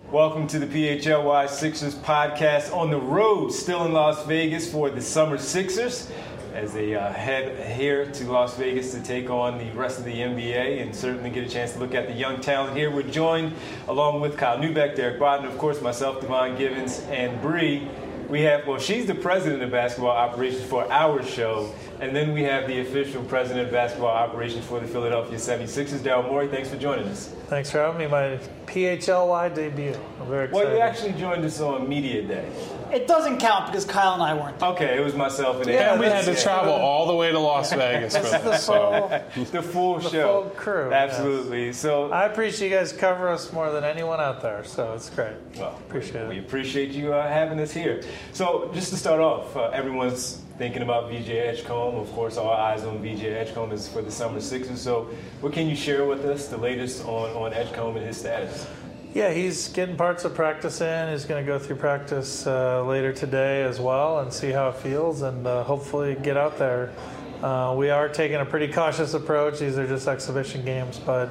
Welcome to the PHLY Sixers podcast on the road, still in Las Vegas for the Summer Sixers as they head here to Las Vegas to take on the rest of the NBA and certainly get a chance to look at the young talent here. We're joined along with Kyle Neubeck, Derek Broughton, of course, myself, Devon Givens, and Bree. We have, she's the president of basketball operations for our show, and then we have the official president of basketball operations for the Philadelphia 76ers, Daryl Morey. Thanks for joining us. Thanks for having me. My PHLY debut. I'm very excited. Well, you actually joined us on Media Day. It doesn't count because Kyle and I weren't there. Okay, it was myself and and we had to travel all the way to Las Vegas for this. The full show. Full crew. Absolutely. Yes. So I appreciate you guys cover us more than anyone out there, so it's great. Well, appreciate it. We appreciate you having us here. So just to start off, everyone's thinking about VJ Edgecombe. Of course, all eyes on VJ Edgecombe is for the Summer Sixers. So what can you share with us, the latest on Edgecombe and his status? Yeah, he's getting parts of practice in. He's going to go through practice later today as well and see how it feels and hopefully get out there. We are taking a pretty cautious approach. These are just exhibition games, but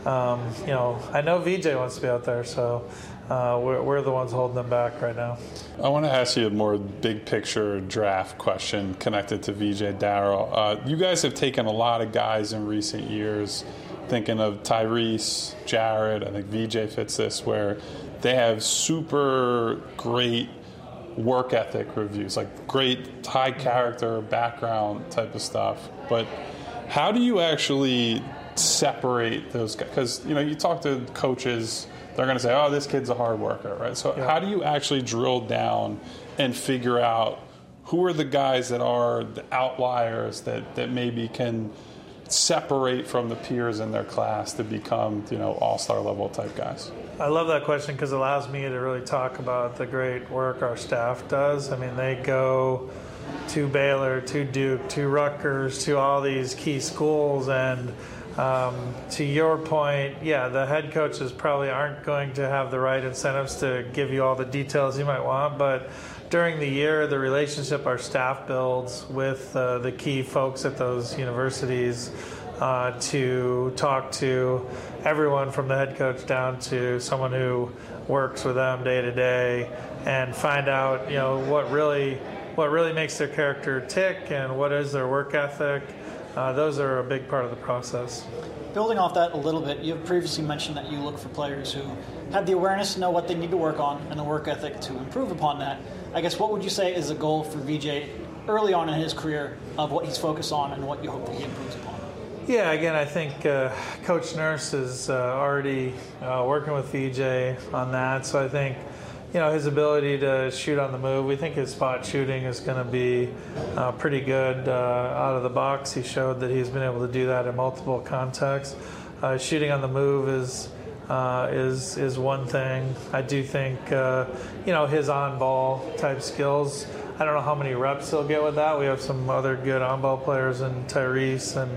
I know VJ wants to be out there, so we're the ones holding them back right now. I want to ask you a more big picture draft question connected to VJ, Daryl. You guys have taken a lot of guys in recent years, thinking of Tyrese, Jared, I think VJ fits this, where they have super great work ethic reviews, like great high character, background type of stuff. But how do you actually separate those guys? Because, you talk to coaches, they're going to say, oh, this kid's a hard worker, right? So how do you actually drill down and figure out who are the guys that are the outliers that maybe can separate from the peers in their class to become, all-star level type guys? I love that question because it allows me to really talk about the great work our staff does. I mean, they go to Baylor, to Duke, to Rutgers, to all these key schools, and to your point, the head coaches probably aren't going to have the right incentives to give you all the details you might want, but during the year, the relationship our staff builds with the key folks at those universities to talk to everyone from the head coach down to someone who works with them day to day and find out, what really makes their character tick and what is their work ethic. Those are a big part of the process. Building off that a little bit, you have previously mentioned that you look for players who have the awareness to know what they need to work on and the work ethic to improve upon that. I guess what would you say is a goal for VJ early on in his career of what he's focused on and what you hope that he improves upon? Yeah, again, I think Coach Nurse is already working with VJ on that. So I think, his ability to shoot on the move, we think his spot shooting is going to be pretty good out of the box. He showed that he's been able to do that in multiple contexts. Shooting on the move is one thing. I do think, his on-ball type skills, I don't know how many reps he'll get with that. We have some other good on-ball players in Tyrese and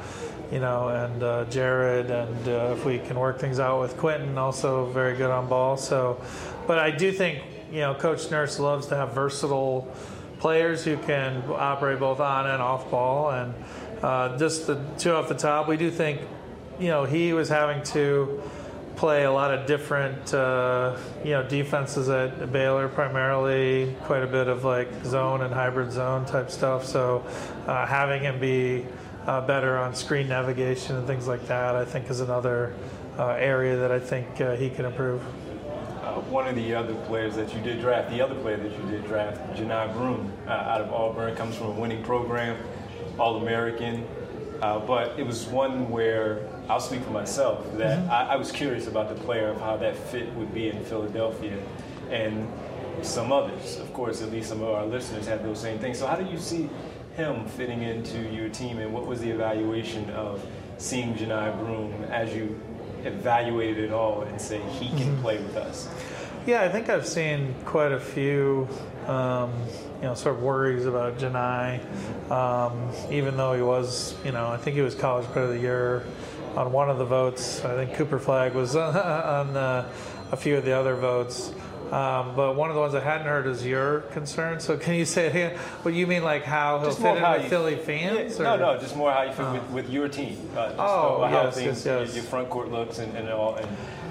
Jared, and if we can work things out with Quentin, also very good on ball. So, but I do think, Coach Nurse loves to have versatile players who can operate both on and off ball. And just the two off the top, we do think, he was having to play a lot of different, defenses at Baylor, primarily quite a bit of like zone and hybrid zone type stuff. So having him be better on screen navigation and things like that, I think is another area that I think he can improve. One of the other players that you did draft, Johni Broome, out of Auburn, comes from a winning program, All-American. But it was one where, I'll speak for myself, that I was curious about the player, of how that fit would be in Philadelphia. And some others, of course, at least some of our listeners have those same things. So how do you see him fitting into your team, and what was the evaluation of seeing Johni Broome as you evaluated it all and say he can play with us? Yeah, I think I've seen quite a few sort of worries about Johni, even though he was, I think he was College Player of the Year on one of the votes. I think Cooper Flagg was on a few of the other votes. But one of the ones I hadn't heard is your concern. So can you say what you mean, like how he'll fit in with Philly fans? Yeah, no, just more how you fit with your team. How your front court looks and all. And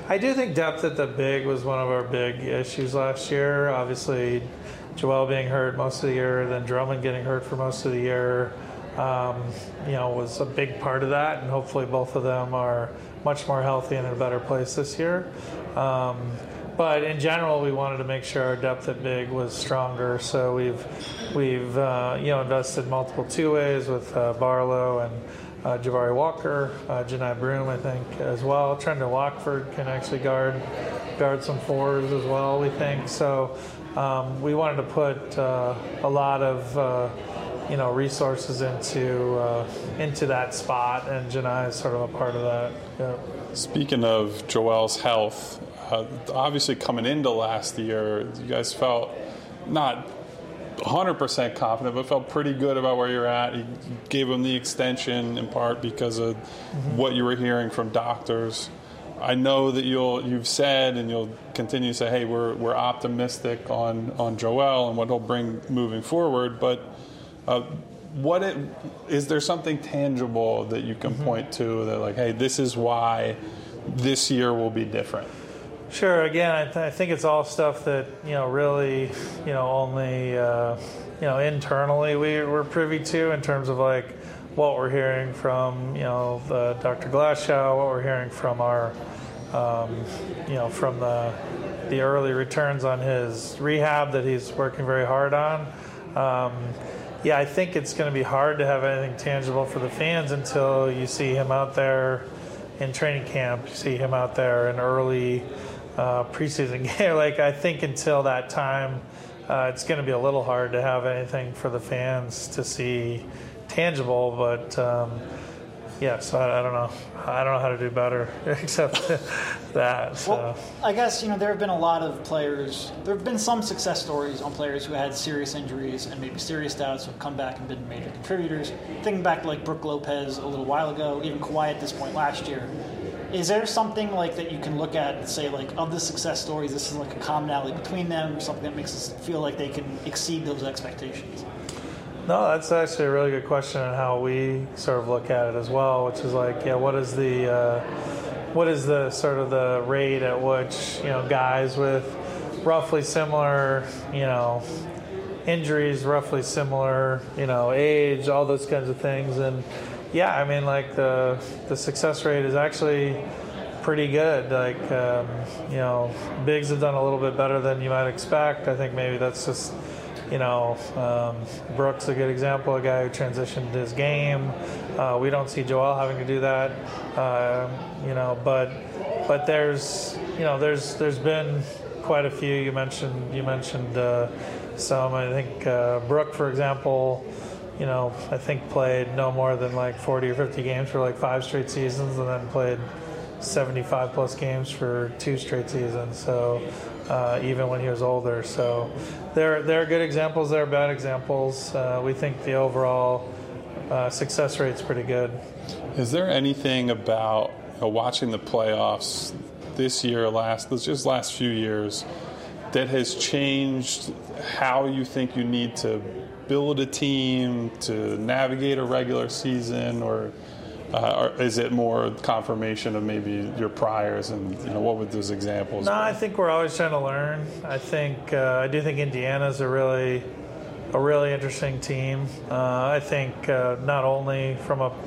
I do think depth at the big was one of our big issues last year. Obviously, Joel being hurt most of the year, then Drummond getting hurt for most of the year, was a big part of that. And hopefully both of them are much more healthy and in a better place this year. But in general, we wanted to make sure our depth at big was stronger. So we've invested multiple two-ways with Barlow and Jabari Walker, Janai Broom, I think, as well. Trendon Watford can actually guard some fours as well, we think. So we wanted to put a lot of resources into that spot, and Janai is sort of a part of that. Yeah. Speaking of Joel's health, obviously coming into last year, you guys felt not 100% confident, but felt pretty good about where you're at. You gave him the extension in part because of what you were hearing from doctors. I know that you've said and you'll continue to say, hey, we're optimistic on Joel and what he'll bring moving forward, but is there something tangible that you can point to that, like, hey, this is why this year will be different? Sure. Again, I think it's all stuff that really only internally we're privy to in terms of like what we're hearing from Dr. Glasgow, what we're hearing from our from the early returns on his rehab that he's working very hard on. I think it's going to be hard to have anything tangible for the fans until you see him out there in training camp, you see him out there in early preseason game. Like, I think until that time, it's going to be a little hard to have anything for the fans to see tangible. But so I don't know. I don't know how to do better except that. So. Well, I guess there have been a lot of players. There have been some success stories on players who had serious injuries and maybe serious doubts who have come back and been major contributors. Thinking back to like Brook Lopez a little while ago, even Kawhi at this point last year. Is there something like that you can look at and say, like, of the success stories, this is like a commonality between them, or something that makes us feel like they can exceed those expectations? No, that's actually a really good question on how we sort of look at it as well, which is like, what is the sort of the rate at which guys with roughly similar injuries, roughly similar age, all those kinds of things. And I mean, like the success rate is actually pretty good. Like bigs have done a little bit better than you might expect. I think maybe that's just Brook's a good example, a guy who transitioned his game. We don't see Joel having to do that, but there's been quite a few. You mentioned some. I think Brook, for example, I think played no more than like 40 or 50 games for like 5 straight seasons, and then played 75 plus games for 2 straight seasons. So even when he was older, so there are good examples, there are bad examples. We think the overall success rate's pretty good. Is there anything about watching the playoffs this year, last few years, that has changed how you think you need to build a team to navigate a regular season, or is it more confirmation of maybe your priors, and what would those examples be? I think we're always trying to learn. I do think Indiana's a really interesting team. I think not only from a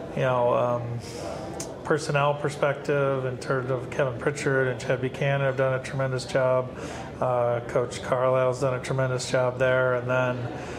personnel perspective in terms of Kevin Pritchard and Chad Buchanan have done a tremendous job. Coach Carlisle's done a tremendous job there, and then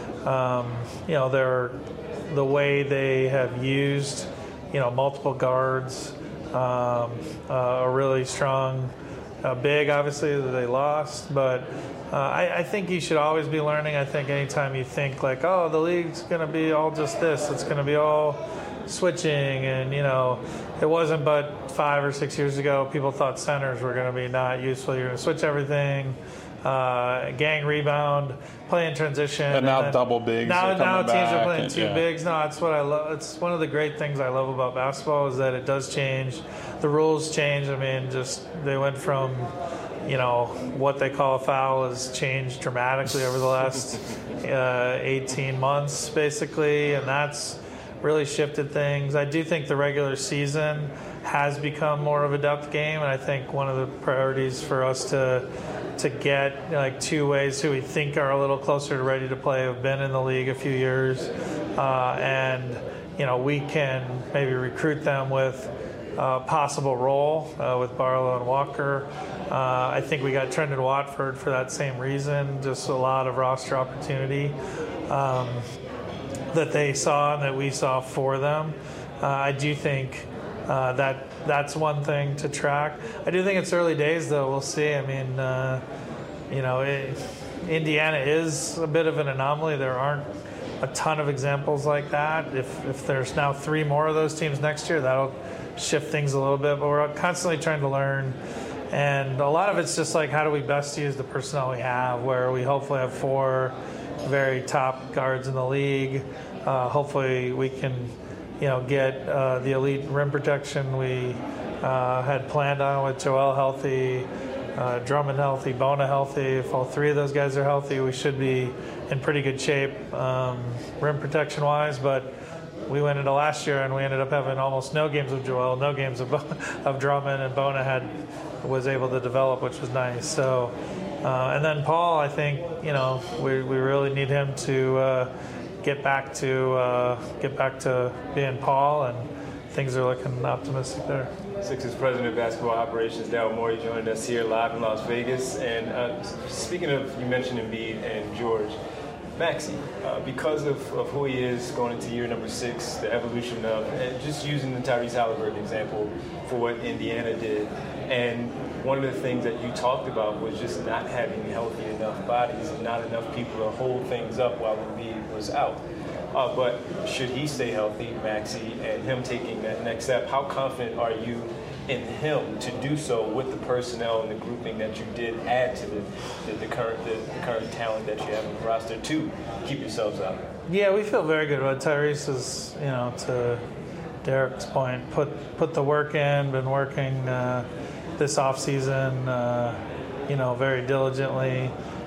the way they have used multiple guards, a really strong big, obviously, that they lost. But I think you should always be learning. I think anytime you think like, oh, the league's going to be all just this, it's going to be all switching. And, it wasn't but 5 or 6 years ago, people thought centers were going to be not useful. You're going to switch everything. Gang rebound, play in transition, and now double bigs. Now teams back are playing two bigs. No, it's what I love. It's one of the great things I love about basketball is that it does change. The rules change. I mean, just they went from what they call a foul has changed dramatically over the last 18 months, basically, and that's really shifted things. I do think the regular season has become more of a depth game, and I think one of the priorities for us to get like two ways who we think are a little closer to ready to play have been in the league a few years, and we can maybe recruit them with possible role with Barlow and Walker. I think we got Trendon Watford for that same reason, just a lot of roster opportunity that they saw and that we saw for them. I do think that's one thing to track. I do think it's early days, though. We'll see. I mean, Indiana is a bit of an anomaly. There aren't a ton of examples like that. If there's now 3 more of those teams next year, that'll shift things a little bit. But we're constantly trying to learn. And a lot of it's just like, how do we best use the personnel we have, where we hopefully have 4 very top guards in the league. Hopefully we can get the elite rim protection we had planned on with Joel healthy, Drummond healthy, Bona healthy. If all 3 of those guys are healthy, we should be in pretty good shape rim protection wise. But we went into last year and we ended up having almost no games of Joel, no games of Drummond, and Bona was able to develop, which was nice. So, and then Paul, I think we really need him to get back to being Paul, and things are looking optimistic there. Sixers President of Basketball Operations, Daryl Morey, joined us here live in Las Vegas. And speaking of, you mentioned Embiid and George, Maxey, because of who he is going into year number 6, the evolution of, and just using the Tyrese Halliburton example for what Indiana did. And one of the things that you talked about was just not having healthy enough bodies and not enough people to hold things up while Embiid was out. But should he stay healthy, Maxey, and him taking that next step, how confident are you in him to do so with the personnel and the grouping that you did add to the current talent that you have on the roster to keep yourselves out? Yeah, we feel very good about Tyrese. Is to Derek's point, put the work in, been working this off season, very diligently.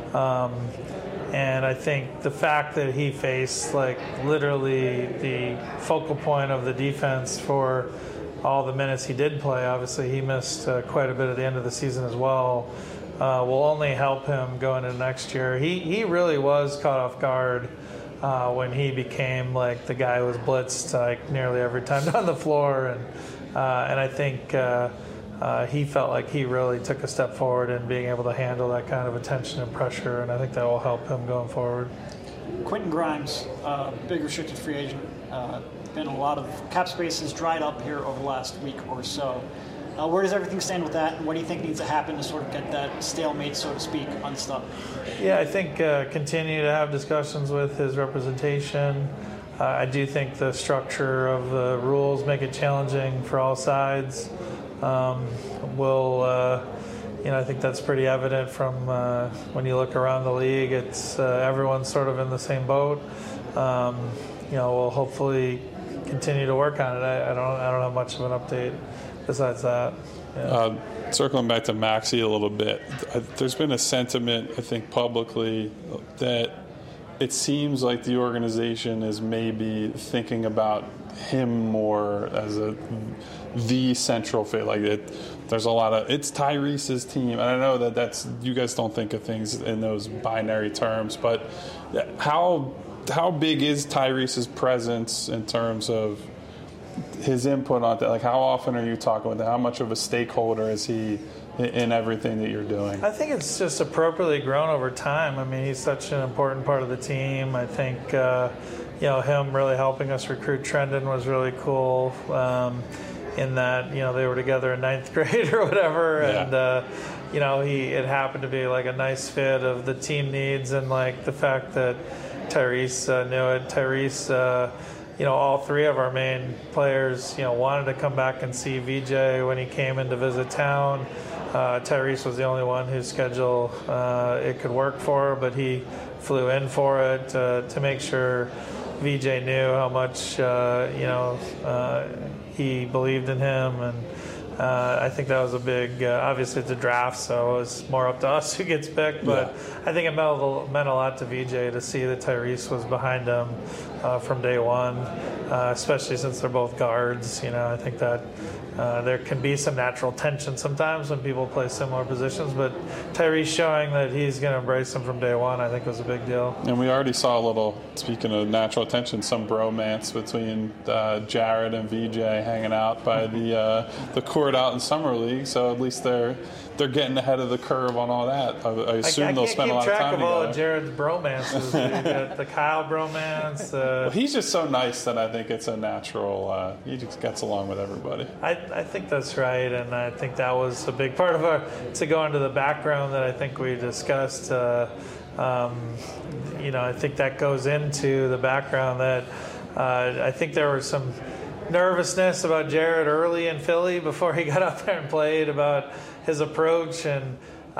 And I think the fact that he faced literally the focal point of the defense for all the minutes he did play, obviously he missed quite a bit at the end of the season as well, will only help him going into next year. He really was caught off guard when he became the guy who was blitzed nearly every time down the floor, and I think he felt like he really took a step forward in being able to handle that kind of attention and pressure, and I think that will help him going forward. Quentin Grimes, big restricted free agent. Been a lot of cap space has dried up here over the last week or so. Where does everything stand with that, and what do you think needs to happen to sort of get that stalemate, so to speak, unstuck? Yeah, I think continue to have discussions with his representation. I do think the structure of the rules make it challenging for all sides. I think that's pretty evident from when you look around the league. It's everyone's sort of in the same boat. We'll hopefully continue to work on it. I don't have much of an update besides that. Yeah. Circling back to Maxey a little bit, there's been a sentiment, I think, publicly that it seems like the organization is maybe thinking about him more as the central figure. There's a lot of, it's Tyrese's team, and I know that's you guys don't think of things in those binary terms, but how big is Tyrese's presence in terms of his input on that? How often are you talking with him? How much of a stakeholder is he in everything that you're doing? I think it's just appropriately grown over time. I mean, he's such an important part of the team. I think him really helping us recruit Trendon was really cool. In that they were together in 9th grade or whatever, yeah. And it happened to be a nice fit of the team needs and the fact that Tyrese knew it. Tyrese, all 3 of our main players, wanted to come back and see VJ when he came in to visit town. Tyrese was the only one whose schedule it could work for, but he flew in for it to make sure VJ knew how much he believed in him, and I think that was a big. Obviously, it's a draft, so it's more up to us who gets picked. But yeah. I think it meant a lot to VJ to see that Tyrese was behind him from day one, especially since they're both guards. I think that there can be some natural tension sometimes when people play similar positions, but Tyrese showing that he's going to embrace them from day one, I think, was a big deal. And we already saw a little, speaking of natural tension, some bromance between Jared and VJ hanging out by the court out in Summer League, so at least they're getting ahead of the curve on all that. I assume they'll spend a lot of time together. I can't keep track of all of Jared's bromances. You got the Kyle bromance. Well, he's just so nice that I think it's a natural, he just gets along with everybody. I think that's right, and I think that was a big part of to go into the background that I think we discussed. I think that goes into the background that I think there was some nervousness about Jared early in Philly before he got up there and played, about his approach, and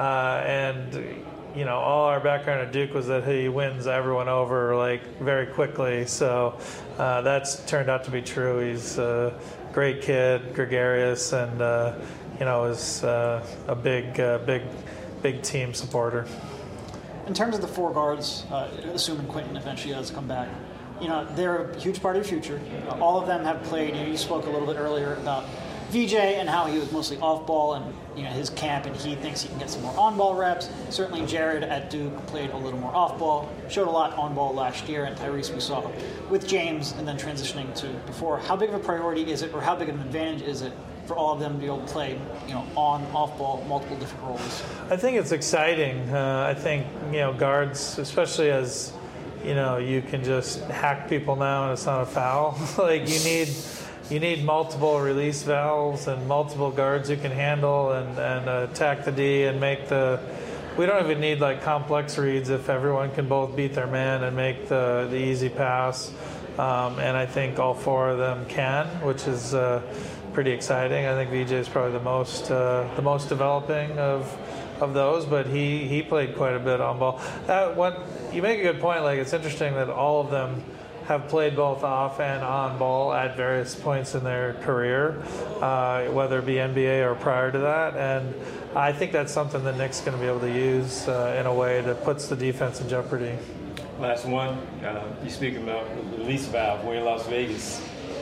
all our background at Duke was that he wins everyone over like very quickly. So that's turned out to be true. He's a great kid, gregarious, and is a big team supporter. In terms of the four guards, assuming Quentin eventually does come back, they're a huge part of your future. All of them have played. You spoke a little bit earlier about VJ and how he was mostly off ball, and his camp, and he thinks he can get some more on ball reps. Certainly Jared at Duke played a little more off ball, showed a lot on ball last year, and Tyrese we saw with James and then transitioning to before. How big of a priority is it, or how big of an advantage is it for all of them to be able to play on, off ball, multiple different roles? I think it's exciting. I think guards, especially as you can just hack people now and it's not a foul. Like you need multiple release valves and multiple guards who can handle and attack the D and make we don't even need like complex reads if everyone can both beat their man and make the easy pass. And I think all four of them can, which is pretty exciting. I think VJ is probably the most developing of those, but he played quite a bit on ball. You make a good point. Like, it's interesting that all of them have played both off and on ball at various points in their career, whether it be NBA or prior to that. And I think that's something that Nick's going to be able to use in a way that puts the defense in jeopardy. Last one, you speaking about the release valve. We're in Las Vegas.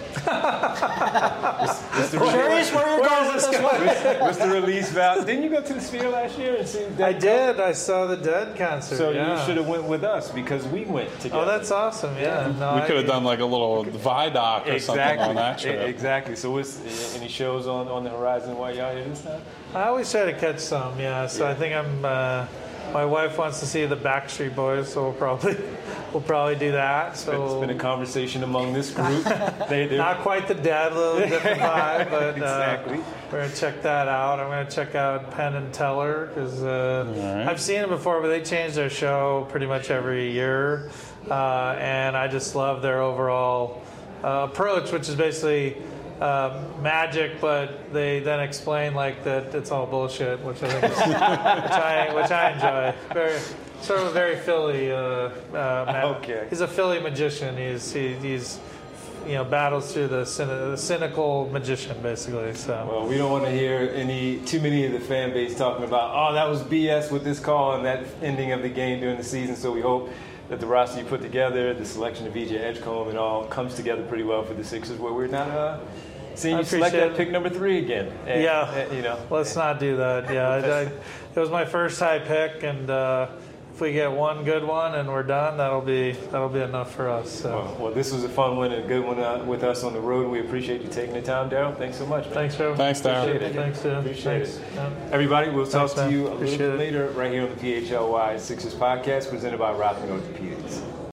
Curious where you're going with this one. What's the release valve? Didn't you go to the Sphere last year and see Dead? I did. I saw the Dead concert. So you should have went with us because we went together. Oh, that's awesome. Yeah. No, we could have done like a little Vidoc or something on that trip. Exactly. So any shows on the horizon while y'all here this time? I always try to catch some, yeah. So I think my wife wants to see the Backstreet Boys, so we'll probably do that. So it's been a conversation among this group. Not quite the Dead, a little different vibe, but exactly. We're going to check that out. I'm going to check out Penn and Teller because I've seen them before, but they change their show pretty much every year. And I just love their overall approach, which is basically magic, but they then explain like that it's all bullshit, which I think is, which I enjoy. Sort of a very Philly. Okay. He's a Philly magician. He's battles through the cynical magician, basically. So. Well, we don't want to hear too many of the fan base talking about, oh, that was BS with this call and that ending of the game during the season. So we hope that the roster you put together, the selection of VJ Edgecombe, and all comes together pretty well for the Sixers, where we're not seeing you select that pick number 3 again. And, let's not do that. Yeah, it was my first high pick, and if we get one good one and we're done, that'll be enough for us. So. Well, this was a fun one and a good one with us on the road. We appreciate you taking the time, Daryl. Thanks so much, man. Thanks, Joe. Thanks, Daryl. Appreciate it. Everybody, we'll talk to you a little bit later right here on the PHLY Sixers podcast presented by Rothman Orthopedics.